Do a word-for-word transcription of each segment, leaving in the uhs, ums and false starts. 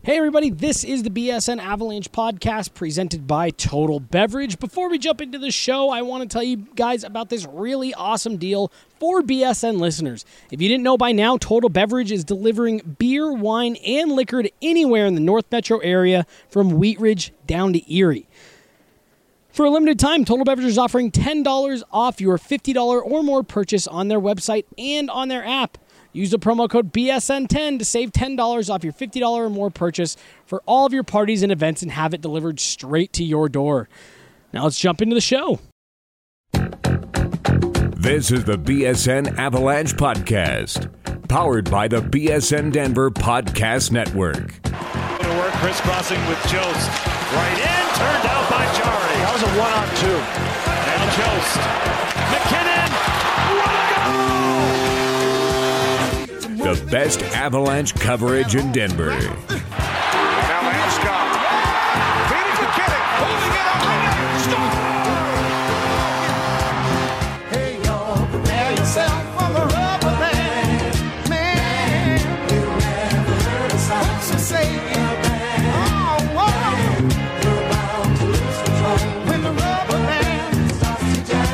Hey everybody, this is the B S N Avalanche podcast presented by Total Beverage. Before we jump into the show, I want to tell you guys about this really awesome deal for B S N listeners. If you didn't know by now, Total Beverage is delivering beer, wine, and liquor to anywhere in the North Metro area from Wheat Ridge down to Erie. For a limited time, Total Beverage is offering ten dollars off your fifty dollars or more purchase on their website and on their app. Use the promo code B S N ten to save ten dollars off your fifty dollars or more purchase for all of your parties and events and have it delivered straight to your door. Now let's jump into the show. This is the B S N Avalanche Podcast, powered by the B S N Denver Podcast Network. To work, crisscrossing with Jost. Right in, turned out by Jari. That was a one-on-two. Now Jost. McKinnon. What a goal! The best Avalanche coverage in Denver. Now Landeskog. Feeding McKinnon. Holding it up. Score! Hey, y'all, prepare yourself for the rubber band. Man, you never heard a song so say it. Oh, whoa. You're about to lose control when the rubber band starts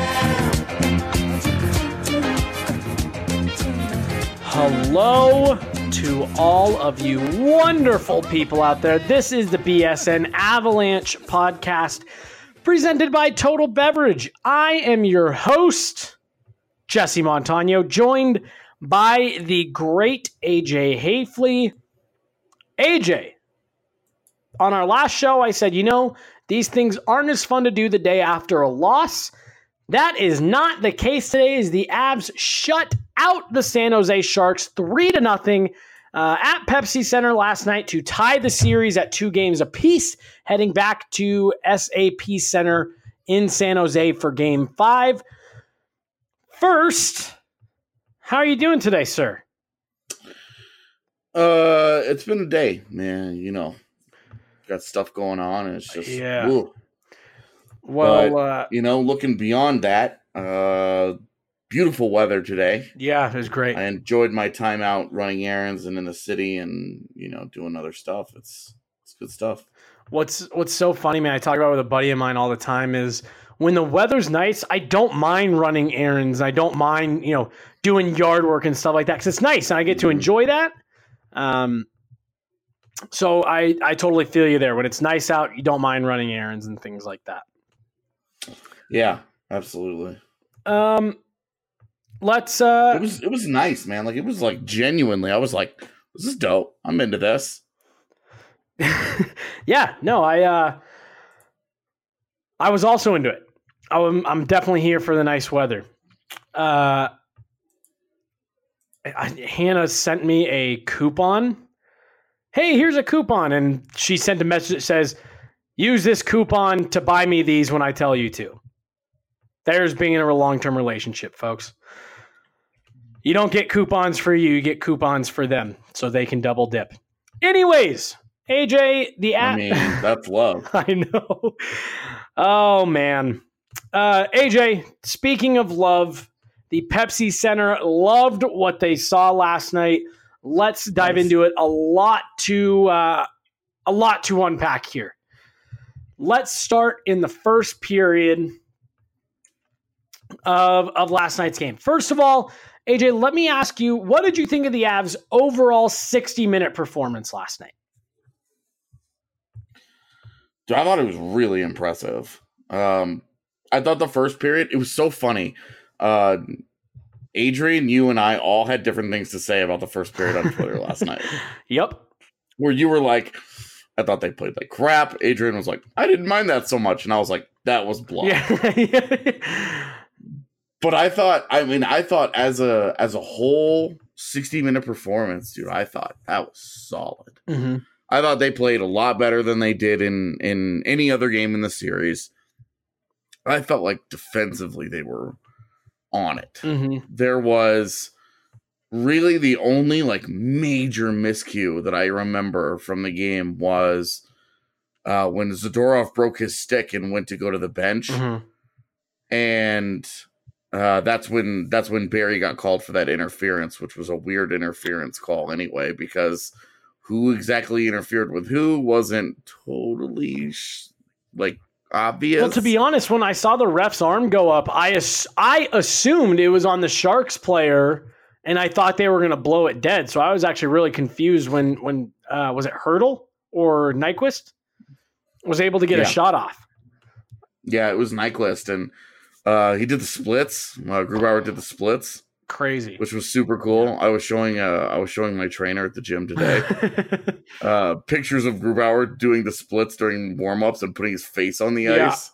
to jam. Hello to all of you wonderful people out there. This is the B S N Avalanche podcast presented by Total Beverage. I am your host, Jesse Montano, joined by the great A J Hafley. A J, on our last show, I said, you know, these things aren't as fun to do the day after a loss. That is not the case today as the Avs shut out the San Jose Sharks three to nothing uh, at Pepsi Center last night to tie the series at two games apiece, heading back to S A P Center in San Jose for game five. First, how are you doing today, sir? Uh, it's been a day, man. You know, got stuff going on, and it's just Yeah. woo. Well, But, uh, you know, looking beyond that, uh, beautiful weather today. yeah, it was great. I enjoyed my time out running errands and in the city, and you know, doing other stuff. It's it's good stuff. What's what's so funny, man, I talk about it with a buddy of mine all the time is when the weather's nice, I don't mind running errands. I don't mind, you know, doing yard work and stuff like that because it's nice and I get to enjoy that. Um, so I, I totally feel you there. When it's nice out, you don't mind running errands and things like that. Yeah, absolutely. Um, let's, uh, It was it was nice, man. Like it was like genuinely, I was like, this is dope. I'm into this. yeah, no, I, uh, I was also into it. I'm, I'm definitely here for the nice weather. Uh, I, Hannah sent me a coupon. Hey, here's a coupon. And she sent a message that says, use this coupon to buy me these when I tell you to. There's being in a long-term relationship, folks. You don't get coupons for you, you get coupons for them so they can double dip. Anyways, A J, the app. I mean, that's love. I know. Oh, man. Uh, A J, speaking of love, the Pepsi Center loved what they saw last night. Let's dive Nice. into it. A lot to uh, a lot to unpack here. Let's start in the first period of, of last night's game. First of all, A J, let me ask you, what did you think of the Avs' overall sixty-minute performance last night? Dude, I thought it was really impressive. Um, I thought the first period, it was so funny. Uh, Adrian, you and I all had different things to say about the first period on Twitter last night. Yep. Where you were like, I thought they played like crap. Adrian was like, I didn't mind that so much. And I was like, that was bluff. Yeah. But I thought, I mean, I thought as a as a whole sixty minute performance, dude, I thought that was solid. Mm-hmm. I thought they played a lot better than they did in, in any other game in the series. I felt like defensively they were on it. Mm-hmm. There was really the only like major miscue that I remember from the game was uh, when Zadorov broke his stick and went to go to the bench. Mm-hmm. And uh, that's when that's when Barry got called for that interference, which was a weird interference call anyway, because who exactly interfered with who wasn't totally sh- like obvious. Well, to be honest, when I saw the ref's arm go up, I ass- I assumed it was on the Sharks player, and I thought they were going to blow it dead. So I was actually really confused when when uh, was it Hurdle or Nyquist was able to get Yeah. a shot off. Yeah, it was Nyquist, and uh, he did the splits. Uh, Grubauer did the splits, Crazy. which was super cool. I was showing uh, I was showing my trainer at the gym today uh, pictures of Grubauer doing the splits during warm-ups and putting his face on the Yeah. ice.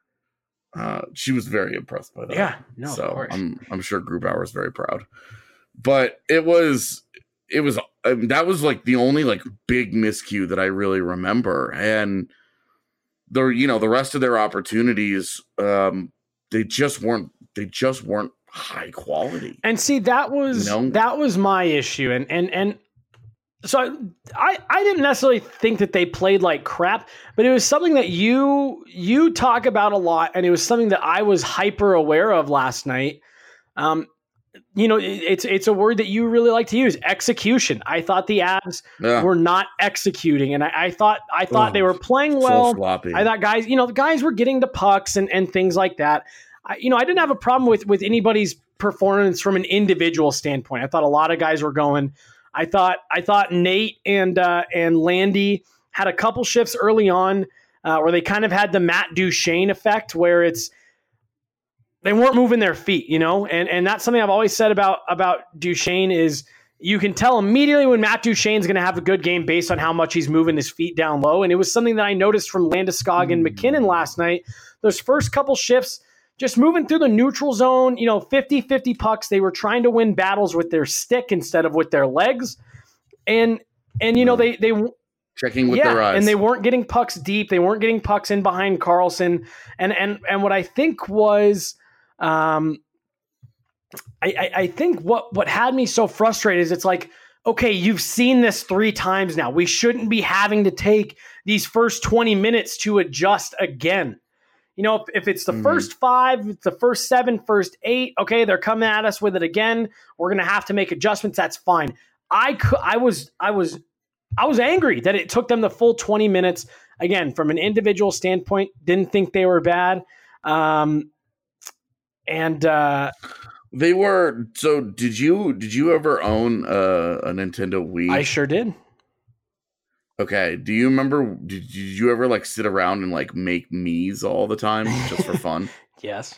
Uh, she was very impressed by that. Yeah, no, of so course. I'm I'm sure Grubauer is very proud. But it was it was I mean, that was like the only like big miscue that I really remember, and the you know the rest of their opportunities, um, they just weren't they just weren't high quality. And see, that was No. that was my issue, and and and so I I didn't necessarily think that they played like crap, but it was something that you you talk about a lot, and it was something that I was hyper aware of last night. Um, you know, it, it's it's a word that you really like to use, execution. I thought the Avs Yeah. were not executing, and I, I thought I thought Oh, they were playing So well. sloppy. I thought guys, you know, the guys were getting to pucks and, and things like that. I, you know, I didn't have a problem with with anybody's performance from an individual standpoint. I thought a lot of guys were going. I thought I thought Nate and uh, and Landy had a couple shifts early on uh, where they kind of had the Matt Duchene effect, where it's they weren't moving their feet, you know, and and that's something I've always said about about Duchene is you can tell immediately when Matt Duchene's going to have a good game based on how much he's moving his feet down low. And it was something that I noticed from Landeskog and McKinnon last night. Those first couple shifts, just moving through the neutral zone, you know, fifty-fifty pucks. They were trying to win battles with their stick instead of with their legs. And, and you know, they, they, Checking with yeah, their eyes. and they weren't getting pucks deep. They weren't getting pucks in behind Carlson. And, and, and what I think was, um, I, I, I think what, what had me so frustrated is it's like, okay, you've seen this three times now. We shouldn't be having to take these first twenty minutes to adjust again. You know, if, if it's the Mhm. first five, if it's the first seven, first eight, okay, they're coming at us with it again. We're going to have to make adjustments. That's fine. I could, I was, I was, I was angry that it took them the full twenty minutes. Again, from an individual standpoint, didn't think they were bad. Um, and, uh, They were. So did you did you ever own a, a Nintendo Wii? I sure did. Okay. Do you remember? Did, did you ever like sit around and like make Miis all the time just for fun? Yes.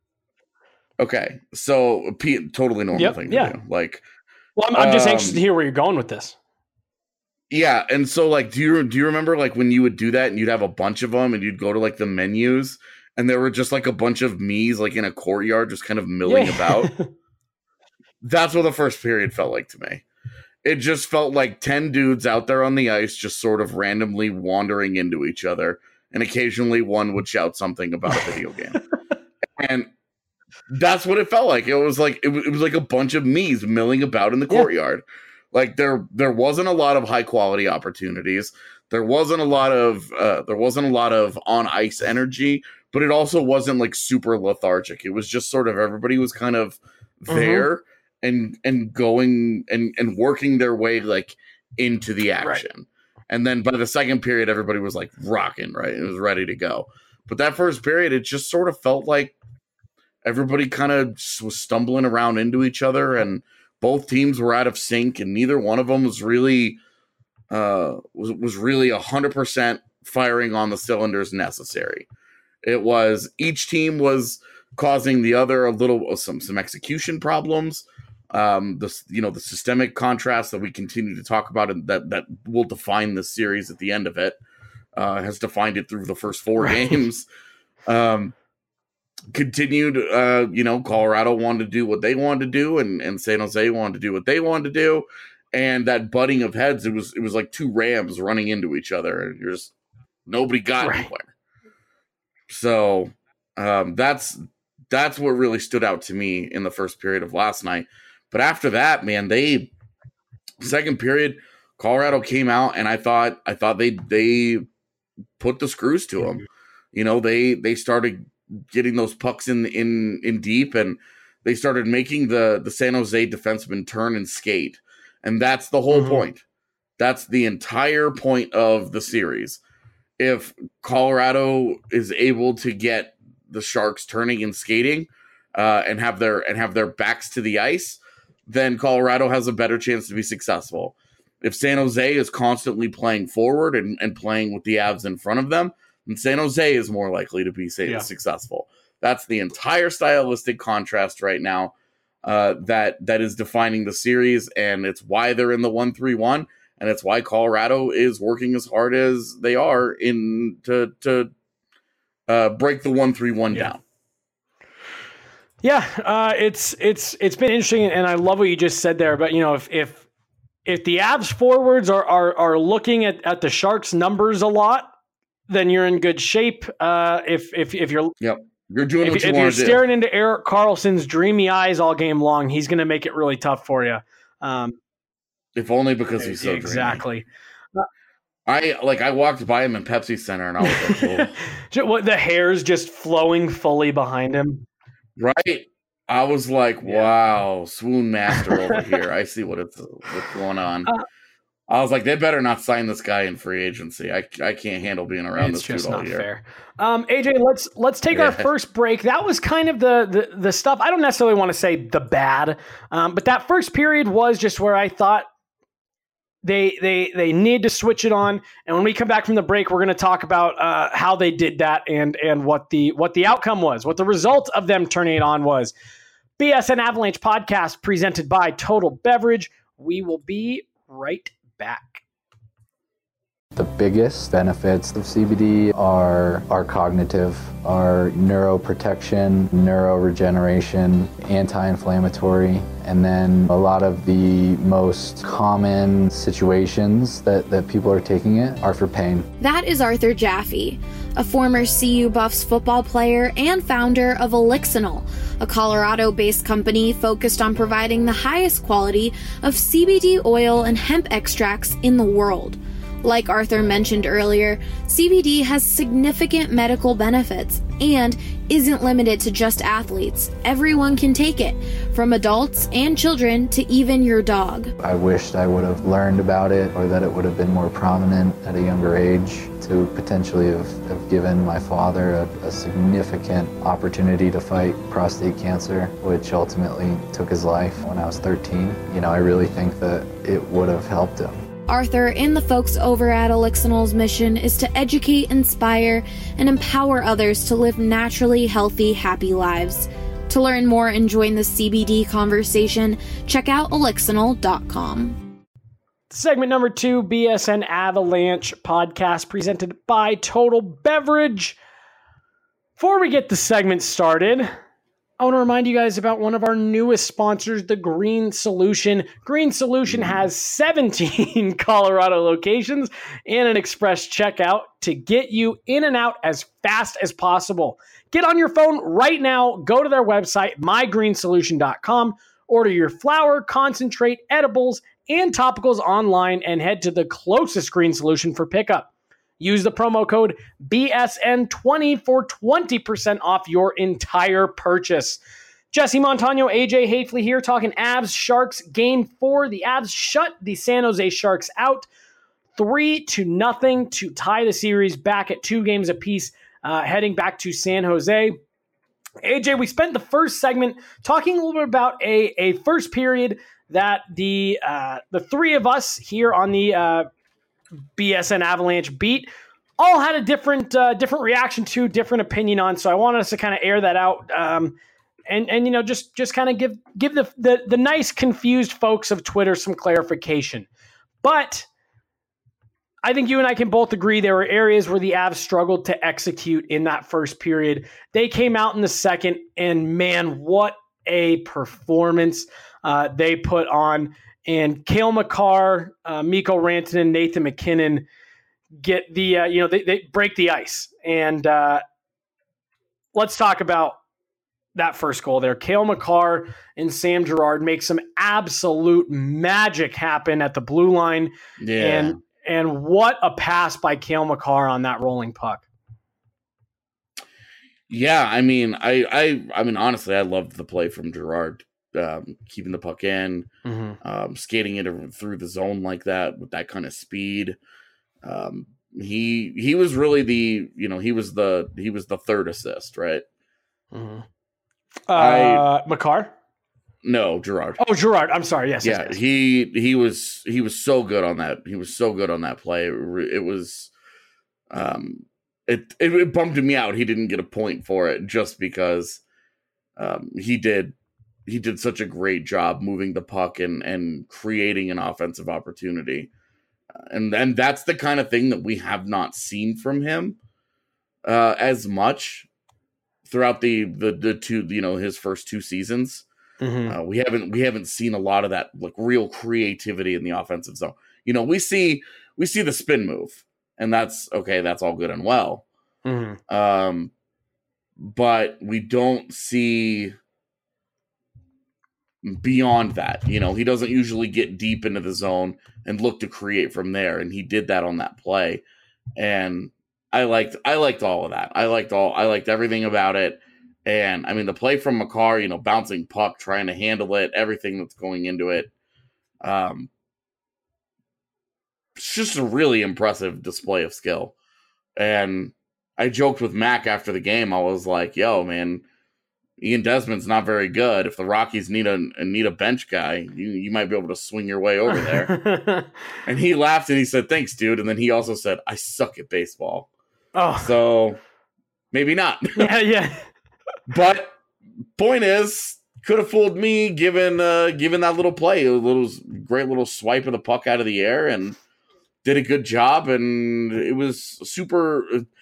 Okay. So P- totally normal Yep, thing to yeah. do. Like, Well, I'm, I'm just Um, anxious to hear where you're going with this. yeah. And so like, do you do you remember like when you would do that and you'd have a bunch of them and you'd go to like the menus and there were just like a bunch of Miis like in a courtyard just kind of milling Yeah. about? That's what the first period felt like to me. It just felt like ten dudes out there on the ice just sort of randomly wandering into each other, and occasionally one would shout something about a video game. And that's what it felt like. It was like it was, it was like a bunch of Miis milling about in the Yeah. courtyard. Like there there wasn't a lot of high quality opportunities. There wasn't a lot of uh, there wasn't a lot of on ice energy, but it also wasn't like super lethargic. It was just sort of everybody was kind of there and and going and and working their way like into the action. And then by the second period, everybody was like rocking, right? It was ready to go. But that first period, it just sort of felt like everybody kind of was stumbling around into each other, and both teams were out of sync, and neither one of them was really uh, was was really a hundred percent firing on the cylinders necessary. It was each team was causing the other a little some some execution problems. Um, the you know the systemic contrast that we continue to talk about and that that will define the series at the end of it uh, has defined it through the first four Right. games. Um, continued, uh, you know, Colorado wanted to do what they wanted to do, and, and San Jose wanted to do what they wanted to do, and that butting of heads, it was it was like two rams running into each other, and you're just nobody got Right. anywhere. So um, that's that's what really stood out to me in the first period of last night. But after that, man, they second period, Colorado came out, and I thought I thought they they put the screws to them. You know, they they started getting those pucks in in in deep, and they started making the the San Jose defensemen turn and skate, and that's the whole Mhm. point. That's the entire point of the series. If Colorado is able to get the Sharks turning and skating uh, and have their and have their backs to the ice, then Colorado has a better chance to be successful. If San Jose is constantly playing forward and, and playing with the Avs in front of them, then San Jose is more likely to be say, yeah. successful. That's the entire stylistic contrast right now uh, that that is defining the series, and it's why they're in the one three one, and it's why Colorado is working as hard as they are in to to uh, break the one three one yeah. down. Yeah, uh, it's it's it's been interesting, and I love what you just said there. But you know, if if if the Avs forwards are are are looking at, at the Sharks numbers a lot, then you're in good shape. Uh, if if if you're yep. You're doing if, what you if want you're to do. staring into Erik Karlsson's dreamy eyes all game long, he's going to make it really tough for you. Um, if only because he's so exactly. dreamy. I like. I walked by him in Pepsi Center, and I was like, oh. What, the hair's just flowing fully behind him. Right. I was like, wow, swoon master over here. I see what it's what's going on. Uh, I was like, they better not sign this guy in free agency. I, I can't handle being around it's this just dude all not year. Fair. Um, A J, let's let's take yeah. our first break. That was kind of the the, the stuff. I don't necessarily want to say the bad, um, but that first period was just where I thought they they they need to switch it on. And when we come back from the break, we're going to talk about uh, how they did that and and what the what the outcome was, what the result of them turning it on was. B S N Avalanche podcast presented by Total Beverage. We will be right back. The biggest benefits of C B D are are cognitive, are neuroprotection, neuroregeneration, anti-inflammatory, and then a lot of the most common situations that, that people are taking it are for pain. That is Arthur Jaffe, a former C U Buffs football player and founder of Elixinol, a Colorado-based company focused on providing the highest quality of C B D oil and hemp extracts in the world. Like Arthur mentioned earlier, C B D has significant medical benefits and isn't limited to just athletes. Everyone can take it, from adults and children to even your dog. I wished I would have learned about it, or that it would have been more prominent at a younger age, to potentially have, have given my father a, a significant opportunity to fight prostate cancer, which ultimately took his life when I was thirteen. You know, I really think that it would have helped him. Arthur and the folks over at Elixinol's mission is to educate, inspire, and empower others to live naturally healthy, happy lives. To learn more and join the C B D conversation, check out elixinol dot com. Segment number two, B S N Avalanche podcast presented by Total Beverage. Before we get the segment started, I want to remind you guys about one of our newest sponsors, the Green Solution. Green Solution has seventeen Colorado locations and an express checkout to get you in and out as fast as possible. Get on your phone right now, go to their website, my green solution dot com, order your flour, concentrate, edibles, and topicals online, and head to the closest Green Solution for pickup. Use the promo code B S N twenty for twenty percent off your entire purchase. Jesse Montano, A J Hafley here talking Avs Sharks game four. The Avs shut the San Jose Sharks out three to nothing to tie the series back at two games apiece, uh, heading back to San Jose. A J, we spent the first segment talking a little bit about a, a first period that the uh, the three of us here on the uh, B S N Avalanche beat all had a different uh, different reaction to, different opinion on. So I wanted us to kind of air that out, um, and and you know just just kind of give give the, the the nice confused folks of Twitter some clarification. But I think you and I can both agree there were areas where the Avs struggled to execute in that first period. They came out in the second, and man, what a performance uh, they put on. And Cale Makar, uh, Mikko Rantanen, Nathan MacKinnon get the, uh, you know, they, they break the ice. And uh, let's talk about that first goal there. Cale Makar and Sam Girard make some absolute magic happen at the blue line. Yeah. And, and what a pass by Cale Makar on that rolling puck. Yeah, I mean, I, I, I mean, honestly, I loved the play from Girard. um, keeping the puck in, Mm-hmm. um, skating it through the zone like that with that kind of speed. Um, he he was really the you know he was the he was the third assist, right? Mm-hmm. Uh, I Makar? no Gerard. Oh, Gerard. I'm sorry. Yes. Yeah, yes, yes. he he was he was so good on that. He was so good on that play. It, re- it was, um, it, it it bummed me out. He didn't get a point for it just because, um, he did he did such a great job moving the puck and and creating an offensive opportunity, and and that's the kind of thing that we have not seen from him, uh, as much throughout the the the two you know his first two seasons. Mm-hmm. Uh, we haven't we haven't seen a lot of that like real creativity in the offensive zone. You know, we see we see the spin move, and that's okay. That's all good and well. Mm-hmm. Um, but we don't see beyond that. You know, he doesn't usually get deep into the zone and look to create from there, and he did that on that play. And I liked I liked all of that. I liked all I liked everything about it. And I mean, the play from Makar, you know, bouncing puck, trying to handle it, everything that's going into it. Um, it's just a really impressive display of skill. And I joked with Mac after the game. I was like, yo, man, Ian Desmond's not very good. If the Rockies need a need a bench guy, you, you might be able to swing your way over there. And he laughed and he said, thanks, dude. And then he also said, I suck at baseball. Oh, So maybe not. yeah, yeah. But point is, could have fooled me given uh, given that little play, a little great little swipe of the puck out of the air, and did a good job. And it was super.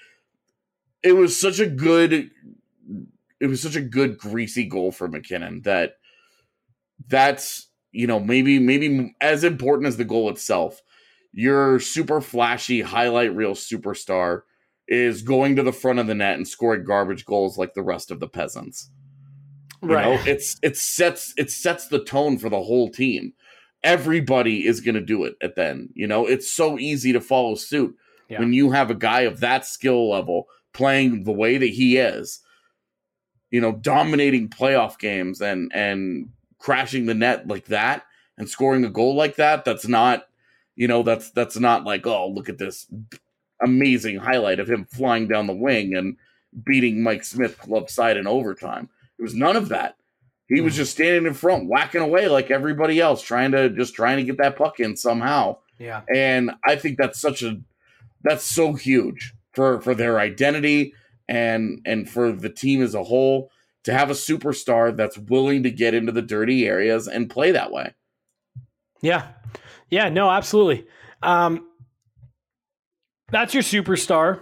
It was such a good. It was such a good greasy goal for McKinnon that that's you know maybe maybe as important as the goal itself. Your super flashy highlight reel superstar is going to the front of the net and scoring garbage goals like the rest of the peasants. You Right. know, it's it sets it sets the tone for the whole team. Everybody is going to do it at then. You know, it's so easy to follow suit Yeah. when you have a guy of that skill level playing the way that he is. You know, dominating playoff games and and crashing the net like that and scoring a goal like that. That's not, you know, that's that's not like, oh, look at this amazing highlight of him flying down the wing and beating Mike Smith club side in overtime. It was none of that. He was just standing in front, whacking away like everybody else, trying to just trying to get that puck in somehow. Yeah. And I think that's such a that's so huge for for their identity and and for the team as a whole to have a superstar that's willing to get into the dirty areas and play that way. Yeah. Yeah, no, absolutely. Um, that's your superstar.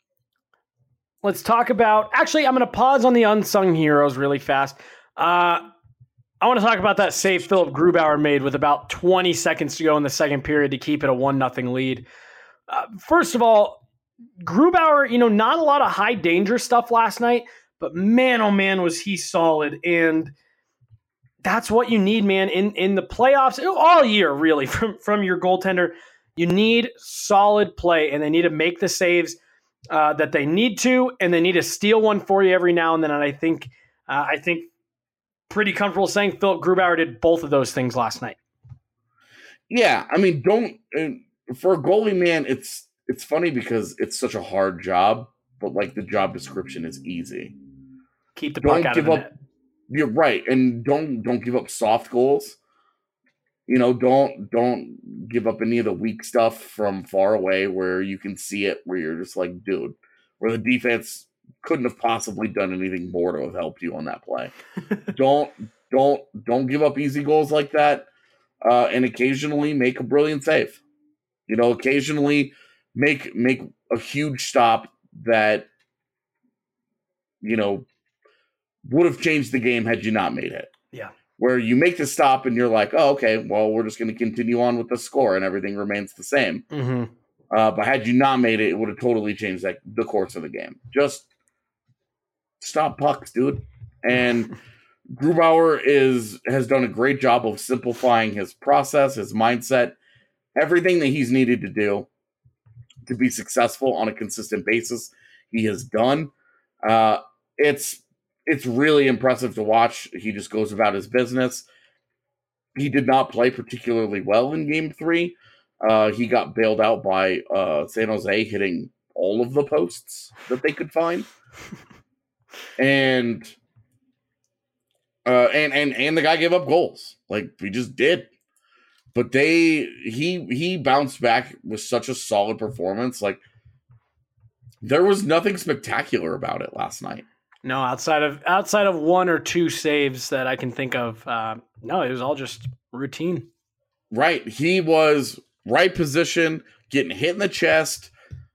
Let's talk about, actually, I'm going to pause on the unsung heroes really fast. Uh, I want to talk about that save Philip Grubauer made with about twenty seconds to go in the second period to keep it a one nothing lead. Uh, first of all, Grubauer, you know, not a lot of high danger stuff last night, but man, oh man, was he solid. And that's what you need, man, in, in the playoffs, all year, really, from, from your goaltender. You need solid play, and they need to make the saves uh, that they need to, and they need to steal one for you every now and then. And I think, uh, I think, pretty comfortable saying Philip Grubauer did both of those things last night. Yeah, I mean, don't uh, for a goalie, man. It's it's funny because it's such a hard job, but like the job description is easy. Keep the Don't puck out of give the up. net. You're right, and don't don't give up soft goals. You know, don't don't give up any of the weak stuff from far away where you can see it, where you're just like, dude, where the defense couldn't have possibly done anything more to have helped you on that play. don't don't don't give up easy goals like that, uh, and occasionally make a brilliant save. You know, occasionally make make a huge stop that, you know, would have changed the game had you not made it. Yeah. Where you make the stop and you're like, oh, okay, well, we're just going to continue on with the score and everything remains the same. Mm-hmm. Uh, but had you not made it, it would have totally changed that, the course of the game. Just stop pucks, dude. And Grubauer is has done a great job of simplifying his process, his mindset, everything that he's needed to do to be successful on a consistent basis. He has done. Uh, it's it's really impressive to watch. He just goes about his business. He did not play particularly well in game three. Uh, he got bailed out by uh, San Jose hitting all of the posts that they could find. and, uh, and, and, and the guy gave up goals. Like, we just did. But they, he, he bounced back with such a solid performance. Like, there was nothing spectacular about it last night. No, outside of outside of one or two saves that I can think of, uh, no, it was all just routine. Right. He was right position, getting hit in the chest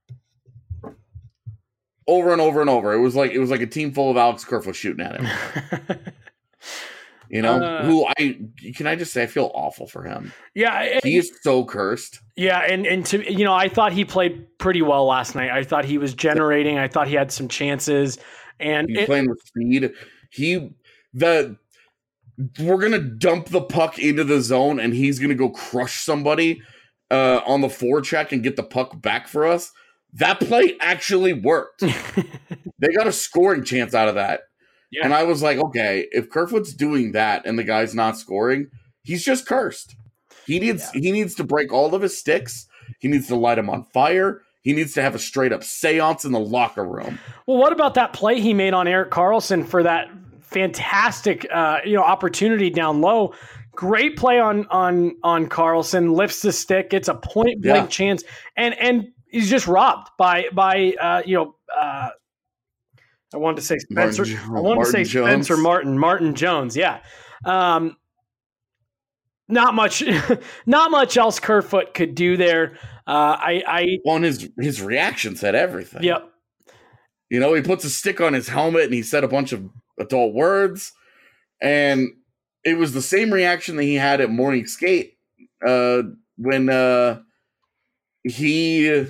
over and over and over. It was like it was like a team full of Alex Kerfoot shooting at him. You know, uh, who I can I just say I feel awful for him. Yeah, it, he is so cursed. Yeah, and and to you know, I thought he played pretty well last night. I thought he was generating. I thought he had some chances. And he's it, playing with speed. He the we're gonna dump the puck into the zone, and he's gonna go crush somebody uh, on the forecheck and get the puck back for us. That play actually worked. They got a scoring chance out of that, yeah. And I was like, okay, if Kerfoot's doing that and the guy's not scoring, he's just cursed. He needs yeah. he needs to break all of his sticks. He needs to light him on fire. He needs to have a straight up seance in the locker room. Well, what about that play he made on Erik Karlsson for that fantastic, uh, you know, opportunity down low? Great play on on on Karlsson. Lifts the stick, gets a point blank yeah. chance, and and he's just robbed by by uh, you know. Uh, I wanted to say Spencer. Martin, I wanted Martin to say Jones. Spencer Martin. Martin Jones. Yeah. Um, not much. Not much else Kerfoot could do there. Uh, I, I on his his reaction said everything. Yep. You know, he puts a stick on his helmet and he said a bunch of adult words, and it was the same reaction that he had at morning skate uh, when uh, he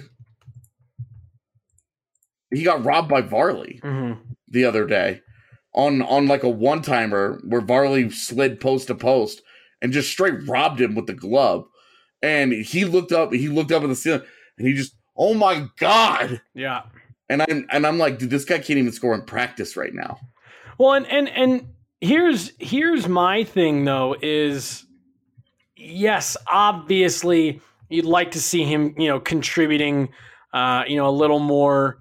he got robbed by Varley mm-hmm. the other day on on like a one timer where Varley slid post to post and just straight robbed him with the glove. And he looked up, he looked up at the ceiling, and he just, oh my God. Yeah. And I'm and I'm like, dude, this guy can't even score in practice right now. Well, and and and here's here's my thing though, is yes, obviously you'd like to see him, you know, contributing uh, you know, a little more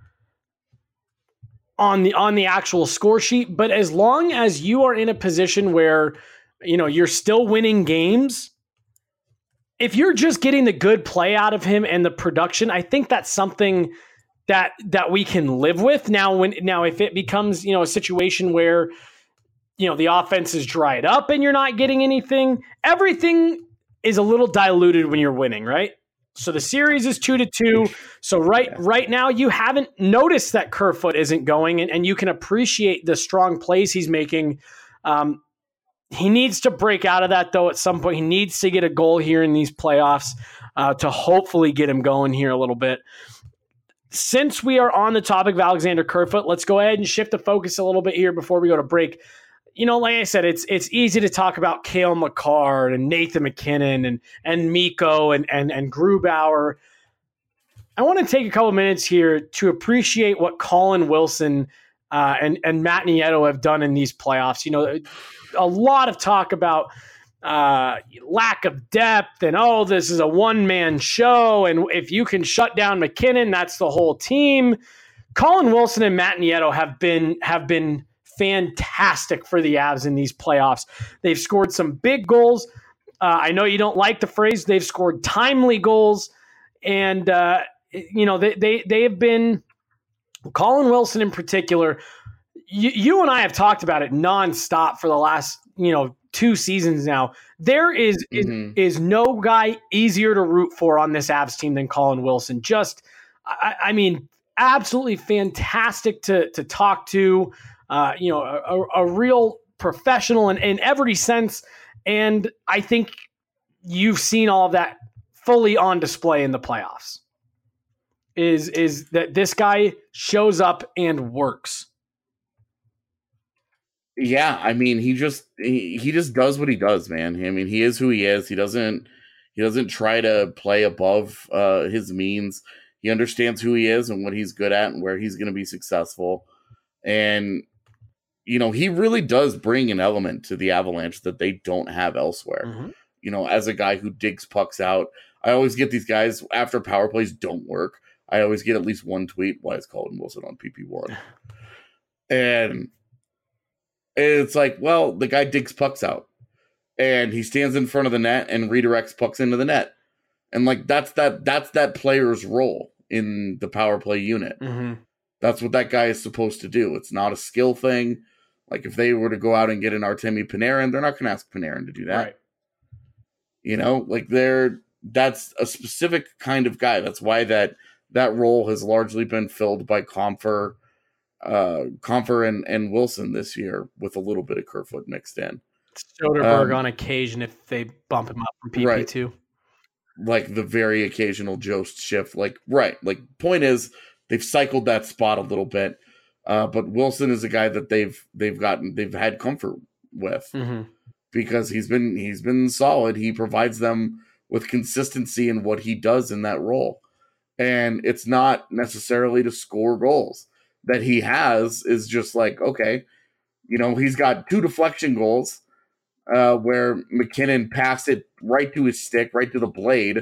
on the on the actual score sheet. But as long as you are in a position where, you know, you're still winning games. If you're just getting the good play out of him and the production, I think that's something that that we can live with. Now, when now if it becomes, you know, a situation where, you know, the offense is dried up and you're not getting anything, everything is a little diluted when you're winning, right? So the series is two to two. So right yeah. right now you haven't noticed that Kerfoot isn't going, and, and you can appreciate the strong plays he's making. Um, He needs to break out of that, though, at some point. He needs to get a goal here in these playoffs uh, to hopefully get him going here a little bit. Since we are on the topic of Alexander Kerfoot, let's go ahead and shift the focus a little bit here before we go to break. You know, like I said, it's it's easy to talk about Cale Makar and Nathan MacKinnon and and Mikko and and and Grubauer. I want to take a couple minutes here to appreciate what Colin Wilson uh, and and Matt Nieto have done in these playoffs. You know, a lot of talk about uh, lack of depth and, oh, this is a one-man show. And if you can shut down McKinnon, that's the whole team. Colin Wilson and Matt Nieto have been have been fantastic for the Avs in these playoffs. They've scored some big goals. Uh, I know you don't like the phrase. They've scored timely goals. And, uh, you know, they, they, they have been – Colin Wilson in particular – You, you and I have talked about it nonstop for the last, you know, two seasons now. There is, mm-hmm. is is no guy easier to root for on this Avs team than Colin Wilson. Just, I, I mean, absolutely fantastic to to talk to. Uh, you know, a, a real professional in, in every sense. And I think you've seen all of that fully on display in the playoffs. Is is that this guy shows up and works. Yeah, I mean, he just he, he just does what he does, man. I mean, he is who he is. He doesn't he doesn't try to play above uh, his means. He understands who he is and what he's good at and where he's going to be successful. And you know, he really does bring an element to the Avalanche that they don't have elsewhere. Mm-hmm. You know, as a guy who digs pucks out, I always get these guys after power plays don't work. I always get at least one tweet. Why is Colin Wilson on P P one? And it's like, well, the guy digs pucks out and he stands in front of the net and redirects pucks into the net. And like, that's that, that's that player's role in the power play unit. Mm-hmm. That's what that guy is supposed to do. It's not a skill thing. Like if they were to go out and get an Artemi Panarin, they're not going to ask Panarin to do that. Right. You know, like they're, that's a specific kind of guy. That's why that, that role has largely been filled by Compher, uh, Compher and, and Wilson this year with a little bit of Kerfoot mixed in. Soderberg um, on occasion if they bump him up from P P two. Right. Like the very occasional Jost shift. Like, right. Like point is they've cycled that spot a little bit. Uh, but Wilson is a guy that they've, they've gotten, they've had comfort with mm-hmm. because he's been, he's been solid. He provides them with consistency in what he does in that role. And it's not necessarily to score goals. That he has is just like, okay, you know, he's got two deflection goals uh, where McKinnon passed it right to his stick, right to the blade,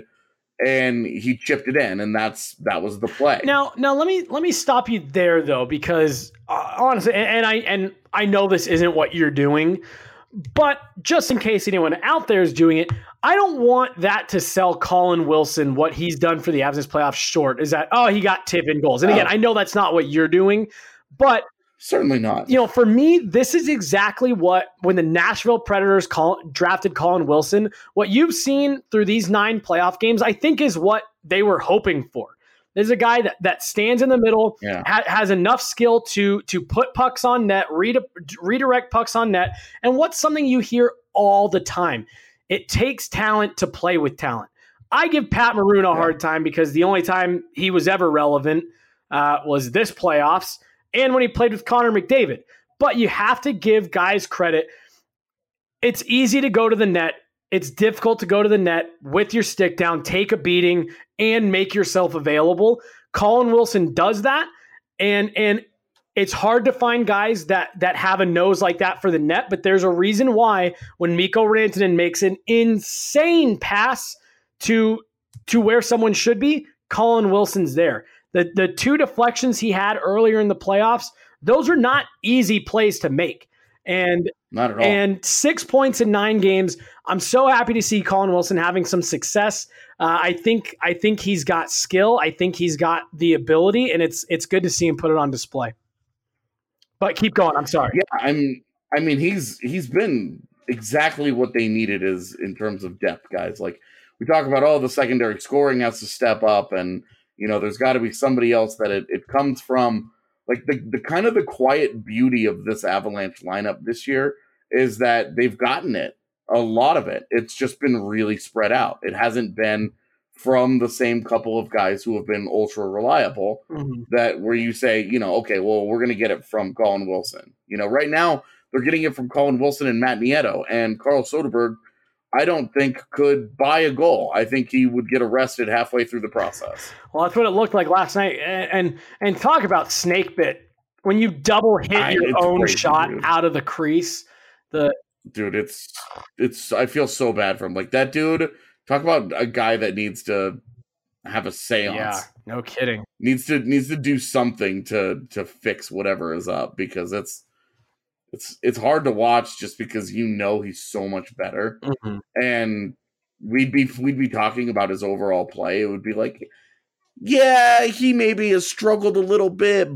and he chipped it in, and that's that was the play. Now, now let me let me stop you there though, because uh, honestly, and, and I and I know this isn't what you're doing, but just in case anyone out there is doing it, I don't want that to sell Colin Wilson what he's done for the Avs this playoffs short. Is that, oh, he got tip in goals. And again, oh. I know that's not what you're doing, but certainly not. You know, for me, this is exactly what, when the Nashville Predators call, drafted Colin Wilson, what you've seen through these nine playoff games, I think is what they were hoping for. There's a guy that, that stands in the middle, yeah. ha- has enough skill to to put pucks on net, re- redirect pucks on net. And what's something you hear all the time? It takes talent to play with talent. I give Pat Maroon a yeah. hard time because the only time he was ever relevant uh, was this playoffs and when he played with Connor McDavid. But you have to give guys credit. It's easy to go to the net. It's difficult to go to the net with your stick down, take a beating, and make yourself available. Colin Wilson does that, and and it's hard to find guys that that have a nose like that for the net, but there's a reason why when Mikko Rantanen makes an insane pass to to where someone should be, Colin Wilson's there. The the two deflections he had earlier in the playoffs, those are not easy plays to make. And not at all. And six points in nine games. I'm so happy to see Colin Wilson having some success. Uh, I think I think he's got skill. I think he's got the ability, and it's it's good to see him put it on display. But keep going. I'm sorry. Yeah, I'm. I mean, he's he's been exactly what they needed is in terms of depth, guys. Like we talk about, oh, the secondary scoring has to step up, and you know, there's got to be somebody else that it, it comes from. Like the, the kind of the quiet beauty of this Avalanche lineup this year is that they've gotten it, a lot of it. It's just been really spread out. It hasn't been from the same couple of guys who have been ultra reliable mm-hmm. that where you say, you know, okay, well, we're going to get it from Colin Wilson. You know, right now they're getting it from Colin Wilson and Matt Nieto, and Carl Soderberg, I don't think could buy a goal. I think he would get arrested halfway through the process. Well, that's what it looked like last night. And and, and talk about snake bit. When you double hit I, your own crazy, shot dude. out of the crease. The Dude, it's it's I feel so bad for him. Like that dude, talk about a guy that needs to have a seance. Yeah, no kidding. Needs to needs to do something to to fix whatever is up because it's It's it's hard to watch just because you know he's so much better, mm-hmm. and we'd be we'd be talking about his overall play. It would be like, yeah, he maybe has struggled a little bit,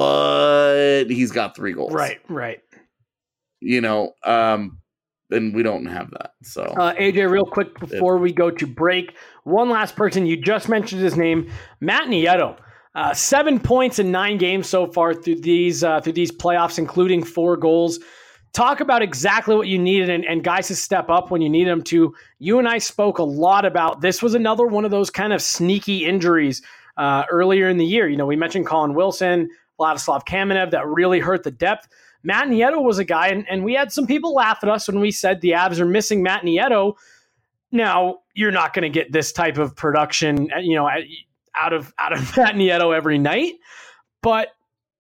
but he's got three goals. Right, right. You know, um, and we don't have that. So, uh, A J, real quick before it, we go to break, one last person you just mentioned his name, Matt Nieto. Uh, seven points in nine games so far through these uh, through these playoffs, including four goals. Talk about exactly what you needed and, and guys to step up when you need them to. You and I spoke a lot about this was another one of those kind of sneaky injuries uh, earlier in the year. You know, we mentioned Colin Wilson, Vladislav Kamenev that really hurt the depth. Matt Nieto was a guy, and, and we had some people laugh at us when we said the Avs are missing Matt Nieto. Now, you're not going to get this type of production, you know, out of out of Matt Nieto every night. But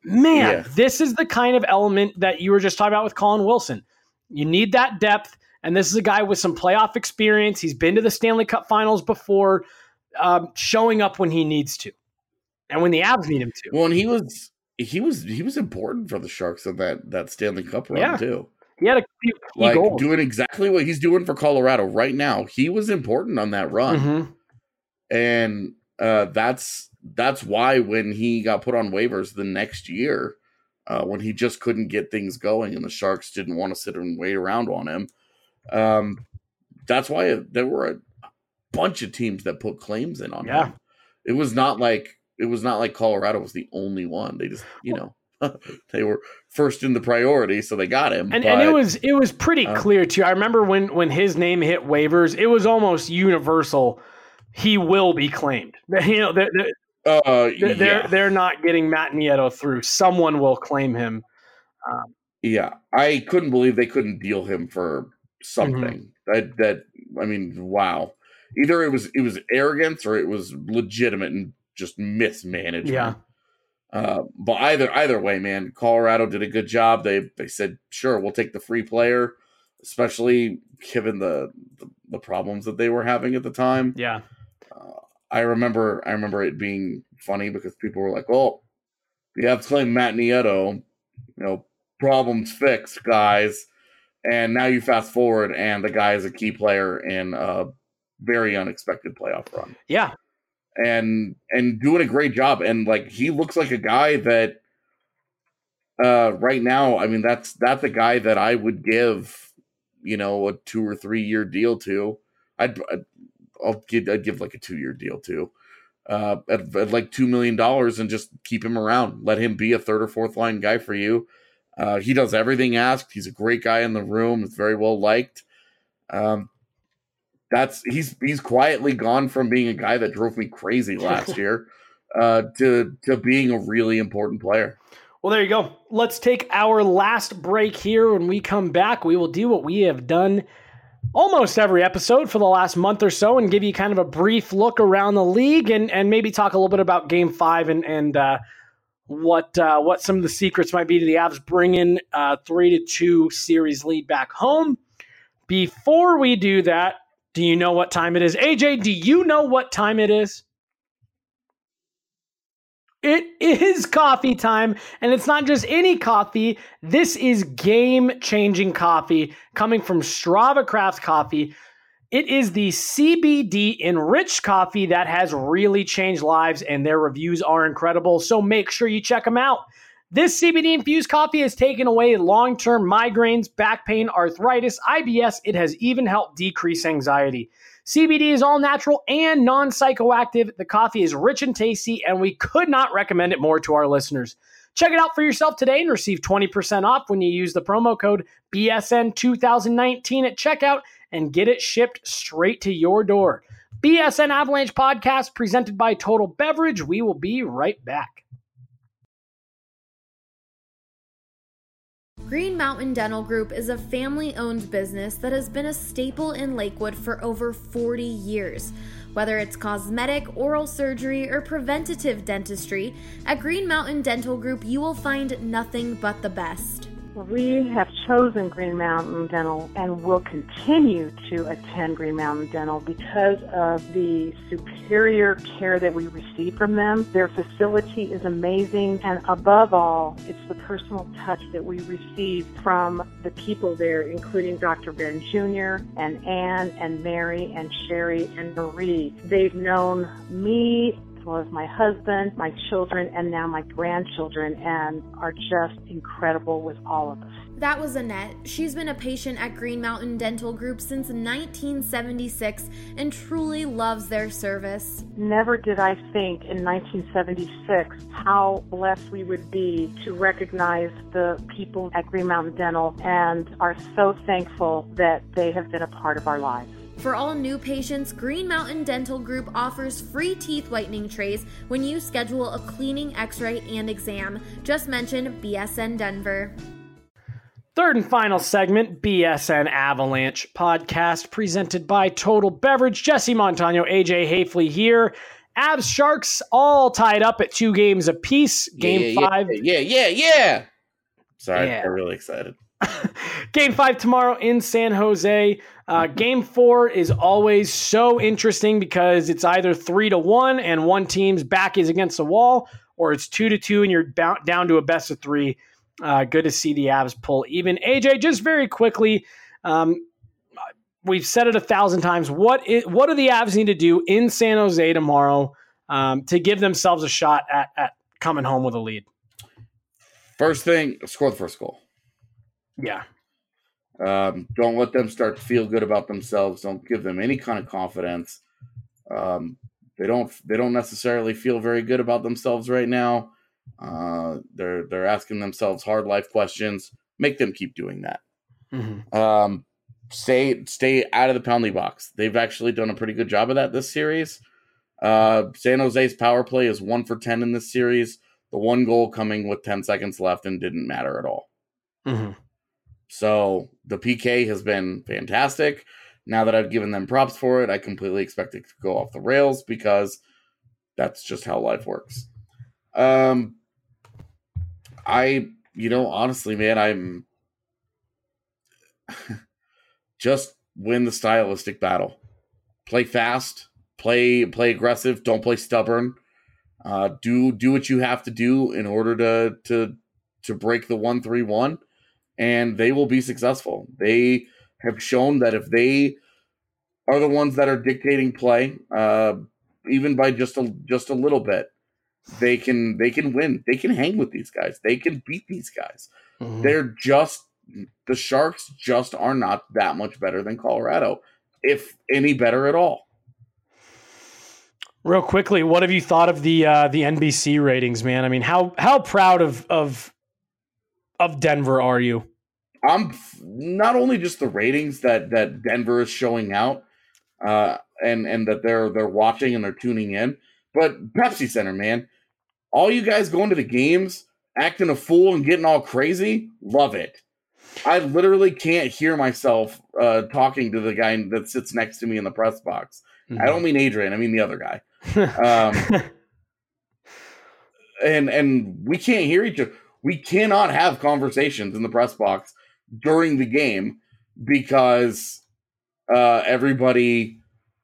man, Yeah. this is the kind of element that you were just talking about with Colin Wilson. You need that depth, and this is a guy with some playoff experience. He's been to the Stanley Cup Finals before, um, showing up when he needs to, and when the Avs need him to. Well, and he was he was he was important for the Sharks in that that Stanley Cup run Yeah. too. He had a few key Like goals. doing exactly what he's doing for Colorado right now. He was important on that run, Mhm. and uh, that's that's why when he got put on waivers the next year, uh, when he just couldn't get things going, and the Sharks didn't want to sit and wait around on him, um, that's why there were a bunch of teams that put claims in on Yeah. him. It was not like it was not like Colorado was the only one. They just you know. They were first in the priority, so they got him. And, but, and it was it was pretty uh, clear too. I remember when when his name hit waivers, it was almost universal. He will be claimed. You know, they're they're, uh, they're, yeah, they're not getting Matt Nieto through. Someone will claim him. Um, yeah. I couldn't believe they couldn't deal him for something. Mm-hmm. That that I mean, wow. Either it was it was arrogance or it was legitimate and just mismanagement. Yeah. Uh, but either either way, man, Colorado did a good job. They they said, sure, we'll take the free player, especially given the the, the problems that they were having at the time. yeah. Uh, I remember I remember it being funny because people were like, "Oh, you have to claim Matt Nieto, you know, problems fixed, guys." And now you fast forward, and the guy is a key player in a very unexpected playoff run. Yeah. and and doing a great job, and like he looks like a guy that uh right now, I mean, that's that's a guy that I would give, you know, a two or three year deal to. I'd, I'd I'll give I'd give like a two year deal to uh at, at like two million dollars and just keep him around. Let him be a third or fourth line guy for you. Uh he does everything asked. He's a great guy in the room. It's very well liked. Um That's he's he's quietly gone from being a guy that drove me crazy last year uh, to to being a really important player. Well, there you go. Let's take our last break here. When we come back, we will do what we have done almost every episode for the last month or so and give you kind of a brief look around the league and, and maybe talk a little bit about Game Five and and uh, what uh, what some of the secrets might be to the Avs bringing a three to two series lead back home. Before we do that, do you know what time it is? A J, do you know what time it is? It is coffee time, and it's not just any coffee. This is game-changing coffee coming from Strava Craft Coffee. It is the C B D-enriched coffee that has really changed lives, and their reviews are incredible, so make sure you check them out. This C B D-infused coffee has taken away long-term migraines, back pain, arthritis, I B S. It has even helped decrease anxiety. C B D is all natural and non-psychoactive. The coffee is rich and tasty, and we could not recommend it more to our listeners. Check it out for yourself today and receive twenty percent off when you use the promo code B S N twenty nineteen at checkout and get it shipped straight to your door. B S N Avalanche Podcast presented by Total Beverage. We will be right back. Green Mountain Dental Group is a family-owned business that has been a staple in Lakewood for over forty years. Whether it's cosmetic, oral surgery, or preventative dentistry, at Green Mountain Dental Group you will find nothing but the best. We have chosen Green Mountain Dental and will continue to attend Green Mountain Dental because of the superior care that we receive from them. Their facility is amazing, and above all, it's the personal touch that we receive from the people there, including Doctor Ben Junior and Ann and Mary and Sherry and Marie. They've known me as well as my husband, my children, and now my grandchildren, and are just incredible with all of us. That was Annette. She's been a patient at Green Mountain Dental Group since nineteen seventy-six and truly loves their service. Never did I think in nineteen seventy-six how blessed we would be to recognize the people at Green Mountain Dental, and are so thankful that they have been a part of our lives. For all new patients, Green Mountain Dental Group offers free teeth whitening trays when you schedule a cleaning, x-ray, and exam. Just mention B S N Denver. Third and final segment, B S N Avalanche Podcast, presented by Total Beverage. Jesse Montano, A J Hafley here. Avs Sharks all tied up at two games apiece. Game yeah, five. Yeah, yeah, yeah. yeah. Sorry, Yeah. I'm really excited. Game five tomorrow in San Jose. Uh, game four is always so interesting because it's either three to one and one team's back is against the wall, or it's two to two and you're bound, down to a best of three. Uh, good to see the Avs pull even. A J, just very quickly, um, we've said it a thousand times. What is, what do the Avs need to do in San Jose tomorrow um, to give themselves a shot at, at coming home with a lead? First thing, score the first goal. Yeah. Um, don't let them start to feel good about themselves. Don't give them any kind of confidence. Um, they don't. They don't necessarily feel very good about themselves right now. Uh, they're they're asking themselves hard life questions. Make them keep doing that. Mm-hmm. Um, stay stay out of the penalty box. They've actually done a pretty good job of that this series. Uh, San Jose's power play is one for ten in this series. The one goal coming with ten seconds left and didn't matter at all. Mm-hmm. So the P K has been fantastic. Now that I've given them props for it, I completely expect it to go off the rails because that's just how life works. Um, I, you know, honestly, man, I'm just win the stylistic battle. Play fast, play play aggressive, don't play stubborn. Uh, do do what you have to do in order to to to break the one three one. And they will be successful. They have shown that if they are the ones that are dictating play, uh, even by just a just a little bit, they can they can win. They can hang with these guys. They can beat these guys. Mm-hmm. They're just the Sharks just are not that much better than Colorado, if any better at all. Real quickly, what have you thought of the uh, the N B C ratings, man? I mean, how how proud of of of Denver are you? I'm not only just the ratings that that Denver is showing out, uh, and and that they're they're watching and they're tuning in, but Pepsi Center, man, all you guys going to the games, acting a fool and getting all crazy, love it. I literally can't hear myself uh, talking to the guy that sits next to me in the press box. Mm-hmm. I don't mean Adrian, I mean the other guy. um, and and we can't hear each other. We cannot have conversations in the press box during the game because uh, everybody,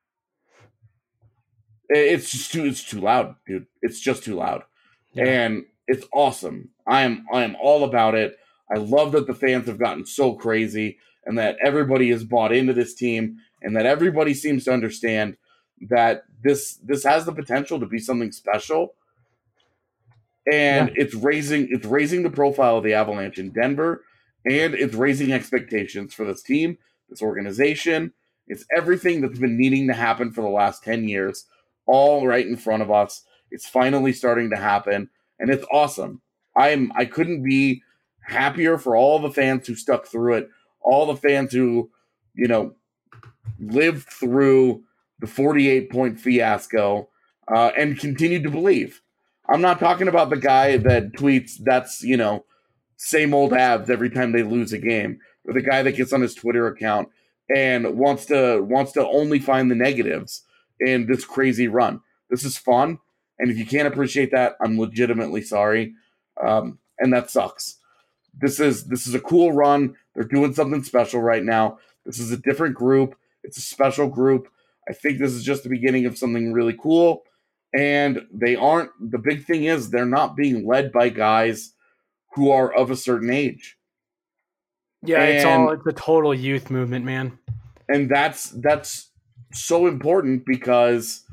it's just too, it's too loud, dude. It's just too loud. Yeah. And it's awesome. I am, I am all about it. I love that the fans have gotten so crazy and that everybody is bought into this team and that everybody seems to understand that this, this has the potential to be something special. And yeah. it's raising it's raising the profile of the Avalanche in Denver, and it's raising expectations for this team, this organization. It's everything that's been needing to happen for the last ten years, all right in front of us. It's finally starting to happen, and it's awesome. I'm I couldn't be happier for all the fans who stuck through it, all the fans who, you know, lived through the forty-eight point fiasco uh, and continued to believe. I'm not talking about the guy that tweets that's, you know, same old Avs every time they lose a game, or the guy that gets on his Twitter account and wants to wants to only find the negatives in this crazy run. This is fun, and if you can't appreciate that, I'm legitimately sorry, um, and that sucks. This is this is a cool run. They're doing something special right now. This is a different group. It's a special group. I think this is just the beginning of something really cool. And they aren't, the big thing is they're not being led by guys who are of a certain age. Yeah, and, it's all, it's a total youth movement, man. And that's, that's so important because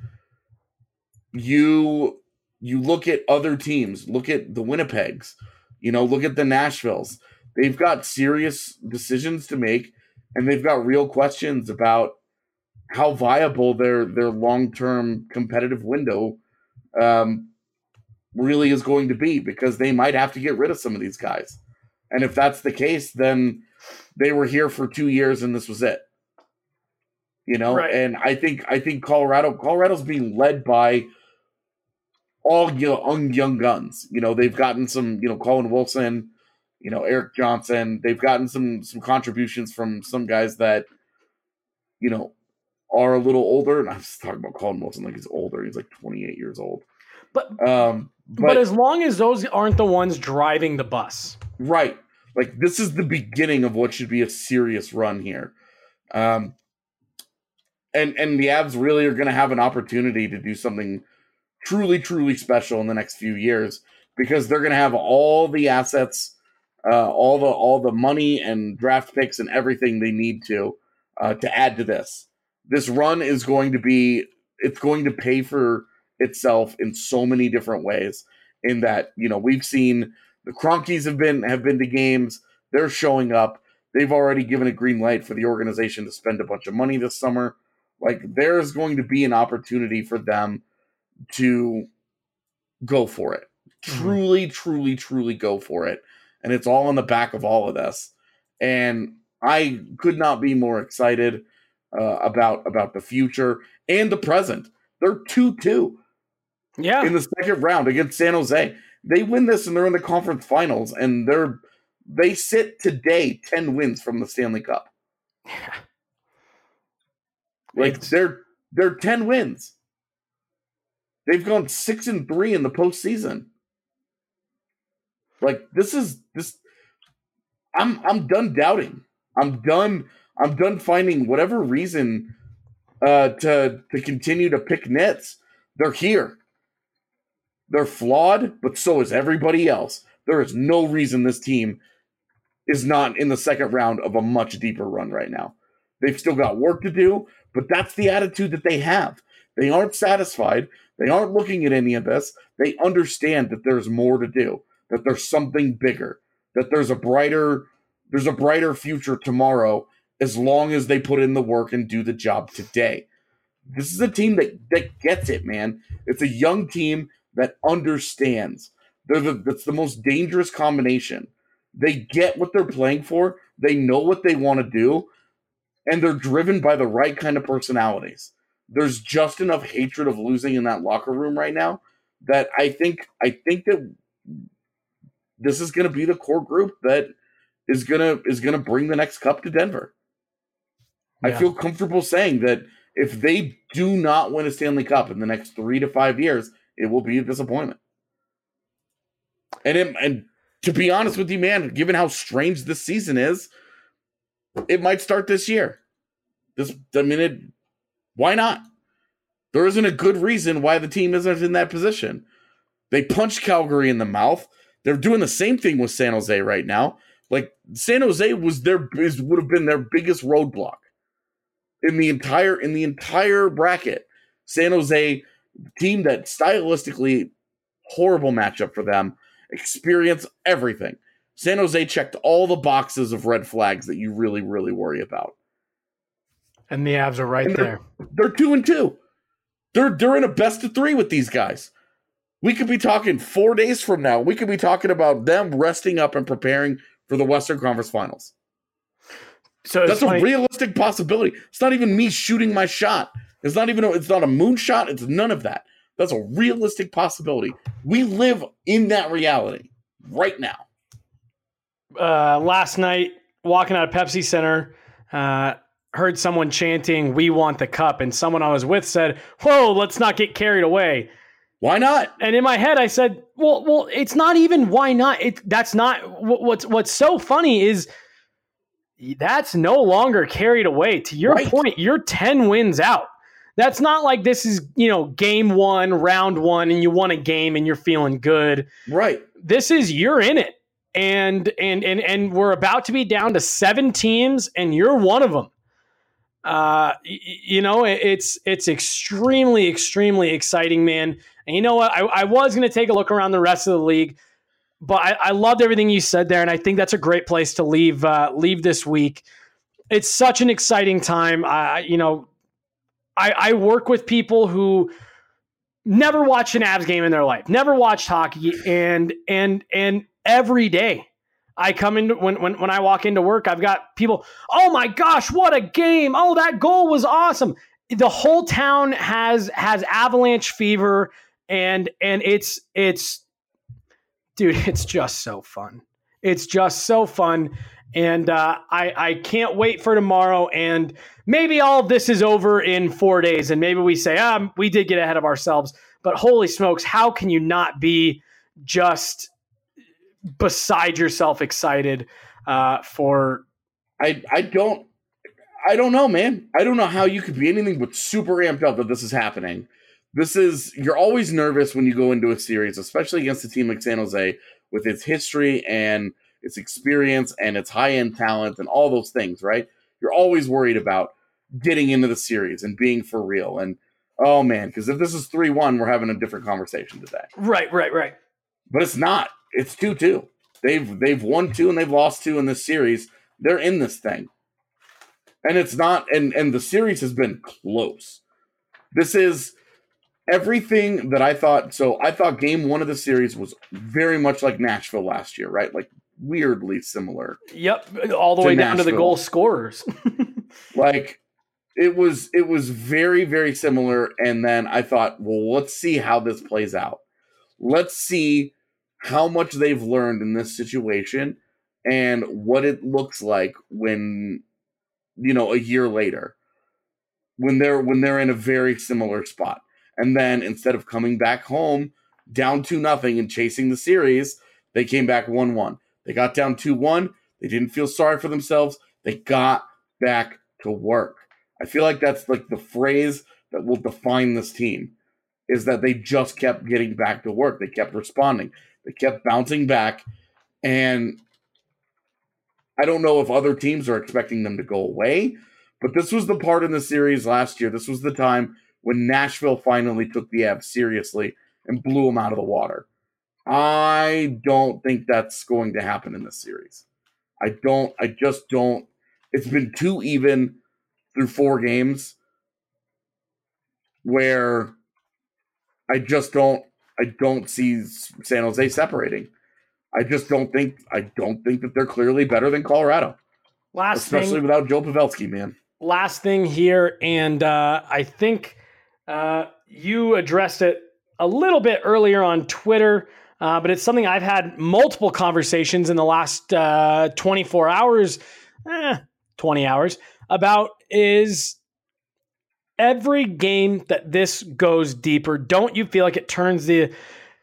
you, you look at other teams, look at the Winnipegs, you know, look at the Nashvilles. They've got serious decisions to make and they've got real questions about how viable their their long-term competitive window um, really is going to be, because they might have to get rid of some of these guys. And if that's the case, then they were here for two years and this was it. You know, right. And I think I think Colorado Colorado's being led by all young young guns. You know, they've gotten some, you know, Colin Wilson, you know, Eric Johnson. They've gotten some some contributions from some guys that, you know, are a little older, and I was talking about Colin Wilson like he's older. He's like twenty-eight years old. But um, but, but as long as those aren't the ones driving the bus, right? Like this is the beginning of what should be a serious run here. Um, and and the Avs really are going to have an opportunity to do something truly, truly special in the next few years because they're going to have all the assets, uh, all the all the money and draft picks and everything they need to uh, to add to this. This run is going to be it's going to pay for itself in so many different ways. In that, you know, we've seen the Cronkies have been have been to games. They're showing up. They've already given a green light for the organization to spend a bunch of money this summer. Like there's going to be an opportunity for them to go for it. Mm-hmm. Truly, truly, truly go for it. And it's all on the back of all of this. And I could not be more excited uh, about, about the future and the present. They're two two. Yeah. In the second round against San Jose. They win this and they're in the conference finals. And they're they sit today ten wins from the Stanley Cup. Yeah. Like it's... they're they're ten wins. They've gone six and three in the postseason. Like this is this. I'm I'm done doubting. I'm done. I'm done finding whatever reason uh, to to continue to pick nits. They're here. They're flawed, but so is everybody else. There is no reason this team is not in the second round of a much deeper run right now. They've still got work to do, but that's the attitude that they have. They aren't satisfied. They aren't looking at any of this. They understand that there's more to do, that there's something bigger, that there's a brighter, there's a brighter future tomorrow as long as they put in the work and do the job today. This is a team that, that gets it, man. It's a young team that understands. They're the, that's the most dangerous combination. They get what they're playing for. They know what they want to do. And they're driven by the right kind of personalities. There's just enough hatred of losing in that locker room right now that I think I think that this is going to be the core group that is gonna is gonna bring the next cup to Denver. Yeah. I feel comfortable saying that if they do not win a Stanley Cup in the next three to five years, it will be a disappointment. And it, and to be honest with you, man, given how strange this season is, it might start this year. This, I mean, it, why not? There isn't a good reason why the team isn't in that position. They punched Calgary in the mouth. They're doing the same thing with San Jose right now. Like San Jose was their is, would have been their biggest roadblock in the entire in the entire bracket. San Jose, team that stylistically horrible matchup for them, experience everything. San Jose checked all the boxes of red flags that you really, really worry about. And the Avs are right they're, there. They're two and two. They're they're in a best of three with these guys. We could be talking four days from now. We could be talking about them resting up and preparing for the Western Conference Finals. So that's funny. A realistic possibility. It's not even me shooting my shot. It's not even. A, it's not a moonshot. It's none of that. That's a realistic possibility. We live in that reality right now. Uh, last night, walking out of Pepsi Center, uh, heard someone chanting, "We want the cup," and someone I was with said, "Whoa, let's not get carried away." Why not? And in my head, I said, "Well, well, it's not even why not. It that's not what's what's so funny is that's no longer carried away. To your right. point, you're ten wins out. That's not like this is, you know, game one, round one, and you won a game and you're feeling good. Right. This is you're in it, and and and and we're about to be down to seven teams, and you're one of them. Uh, you know, it's it's extremely, extremely exciting, man. And you know what? I, I was going to take a look around the rest of the league, but I, I loved everything you said there, and I think that's a great place to leave uh, leave this week. It's such an exciting time. I, you know, I, I work with people who never watched an Avs game in their life, never watched hockey, and and and every day I come into when when when I walk into work, I've got people, "Oh my gosh, what a game. Oh, that goal was awesome." The whole town has has Avalanche fever, and and it's it's dude, it's just so fun. It's just so fun. And uh, I, I can't wait for tomorrow. And maybe all of this is over in four days. And maybe we say, um, we did get ahead of ourselves. But holy smokes, how can you not be just beside yourself excited uh, for... I, I don't I don't know, man. I don't know how you could be anything but super amped up that this is happening. This is... You're always nervous when you go into a series, especially against a team like San Jose with its history and its experience and its high-end talent and all those things, right? You're always worried about getting into the series and being for real. And, oh, man, because if this is three one, we're having a different conversation today. Right, right, right. But it's not. It's two two. They've, they've won two and they've lost two in this series. They're in this thing. And it's not, and, and the series has been close. This is everything that I thought. So I thought game one of the series was very much like Nashville last year, right? Like, weirdly similar. Yep, all the way down Nashville. to the goal scorers. Like it was it was very, very similar. And then I thought, well, let's see how this plays out. Let's see how much they've learned in this situation and what it looks like when, you know, a year later, when they're when they're in a very similar spot. And then instead of coming back home down two nothing and chasing the series, they came back one one. They got down two one. They didn't feel sorry for themselves. They got back to work. I feel like that's like the phrase that will define this team, is that they just kept getting back to work. They kept responding. They kept bouncing back. And I don't know if other teams are expecting them to go away, but this was the part in the series last year. This was the time when Nashville finally took the Avs seriously and blew them out of the water. I don't think that's going to happen in this series. I don't, I just don't. It's been too even through four games where I just don't, I don't see San Jose separating. I just don't think, I don't think that they're clearly better than Colorado. Last especially thing, without Joe Pavelski, man. Last thing here, and uh, I think uh, you addressed it a little bit earlier on Twitter. Uh, but it's something I've had multiple conversations in the last uh, twenty-four hours, eh, twenty hours, about is every game that this goes deeper, don't you feel like it turns the,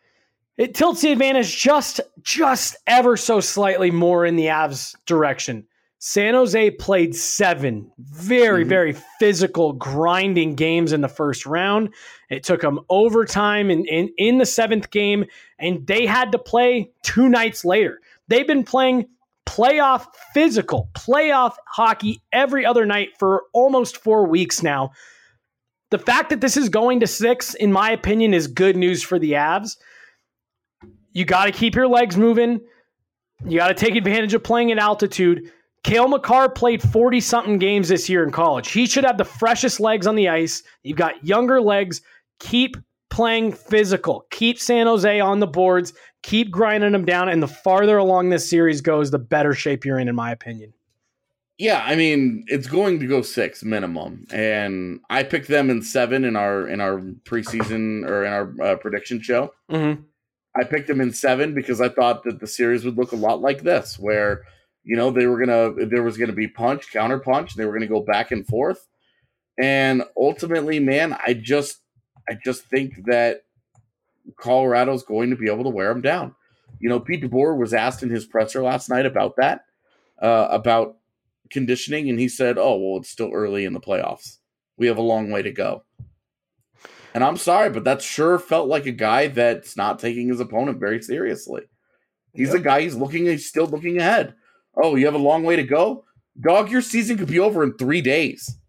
it tilts the advantage just, just ever so slightly more in the Avs direction? San Jose played seven very, mm-hmm. very physical, grinding games in the first round. It took them overtime in, in, in the seventh game, and they had to play two nights later. They've been playing playoff physical, playoff hockey every other night for almost four weeks now. The fact that this is going to six, in my opinion, is good news for the Avs. You got to keep your legs moving. You got to take advantage of playing at altitude. Cale Makar played forty-something games this year in college. He should have the freshest legs on the ice. You've got younger legs. Keep playing physical. Keep San Jose on the boards. Keep grinding them down. And the farther along this series goes, the better shape you're in, in my opinion. Yeah, I mean, it's going to go six minimum. And I picked them in seven in our in our preseason or in our uh, prediction show. Mm-hmm. I picked them in seven because I thought that the series would look a lot like this, where you know, they were going to, there was going to be punch, counter punch. They were going to go back and forth. And ultimately, man, I just, I just think that Colorado's going to be able to wear them down. You know, Pete DeBoer was asked in his presser last night about that, uh, about conditioning. And he said, oh, well, it's still early in the playoffs. We have a long way to go. And I'm sorry, but that sure felt like a guy that's not taking his opponent very seriously. He's yep. a guy, he's looking, he's still looking ahead. Oh, you have a long way to go? Dog, your season could be over in three days.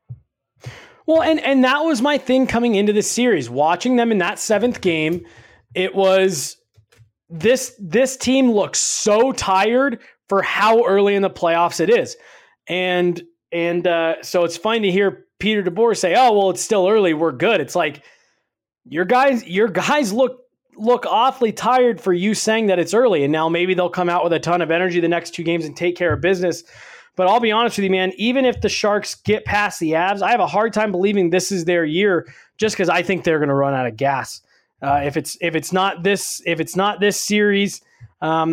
Well, and, and that was my thing coming into this series. Watching them in that seventh game, it was this this team looks so tired for how early in the playoffs it is. And and uh, so it's fun to hear Peter DeBoer say, oh, well, it's still early. We're good. It's like your guys, your guys look look awfully tired for you saying that it's early. And now maybe they'll come out with a ton of energy the next two games and take care of business. But I'll be honest with you, man, even if the Sharks get past the Avs, I have a hard time believing this is their year just because I think they're going to run out of gas. Uh, if it's if it's not this if it's not this series, um,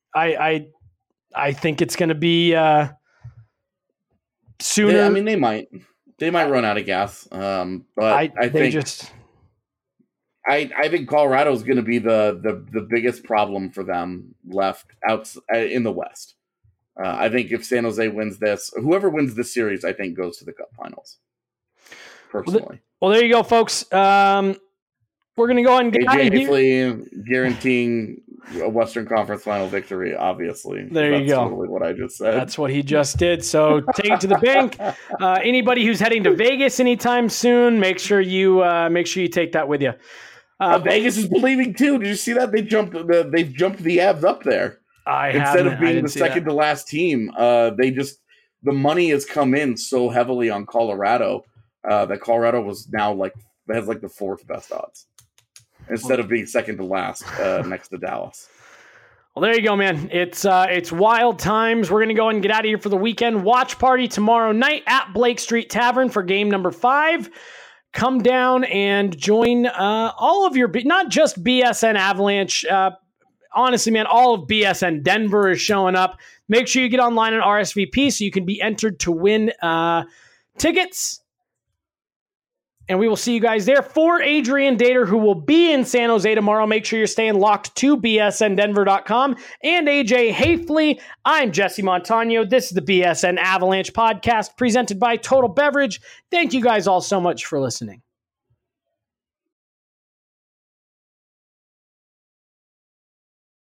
I I, I think it's going to be uh, sooner. They, I mean, they might they might run out of gas, um, but I, I they think just. I, I think Colorado is going to be the, the the biggest problem for them left out in the West. Uh, I think if San Jose wins this, whoever wins this series, I think goes to the Cup Finals. Personally, Well, well there you go, folks. Um, we're going to go ahead and get out of here. Hafley guaranteeing a Western Conference Final victory. Obviously, there That's you go. Totally what I just said. That's what he just did. So take it to the bank. Uh, anybody who's heading to Vegas anytime soon, make sure you uh, make sure you take that with you. Uh, Vegas is believing too. Did you see that they jumped? The, they've jumped the Avs up there. I instead of I being the second that. to last team. Uh, they just the money has come in so heavily on Colorado uh, that Colorado was now like has like the fourth best odds instead of being second to last uh, next to Dallas. Well, there you go, man. It's uh, it's wild times. We're gonna go and get out of here for the weekend. Watch party tomorrow night at Blake Street Tavern for game number five. Come down and join uh, all of your, not just B S N Avalanche. Uh, honestly, man, all of B S N Denver is showing up. Make sure you get online and R S V P so you can be entered to win uh, tickets. And we will see you guys there. For Adrian Dater, who will be in San Jose tomorrow, make sure you're staying locked to B S N Denver dot com. And A J Hafley, I'm Jesse Montano. This is the B S N Avalanche podcast presented by Total Beverage. Thank you guys all so much for listening.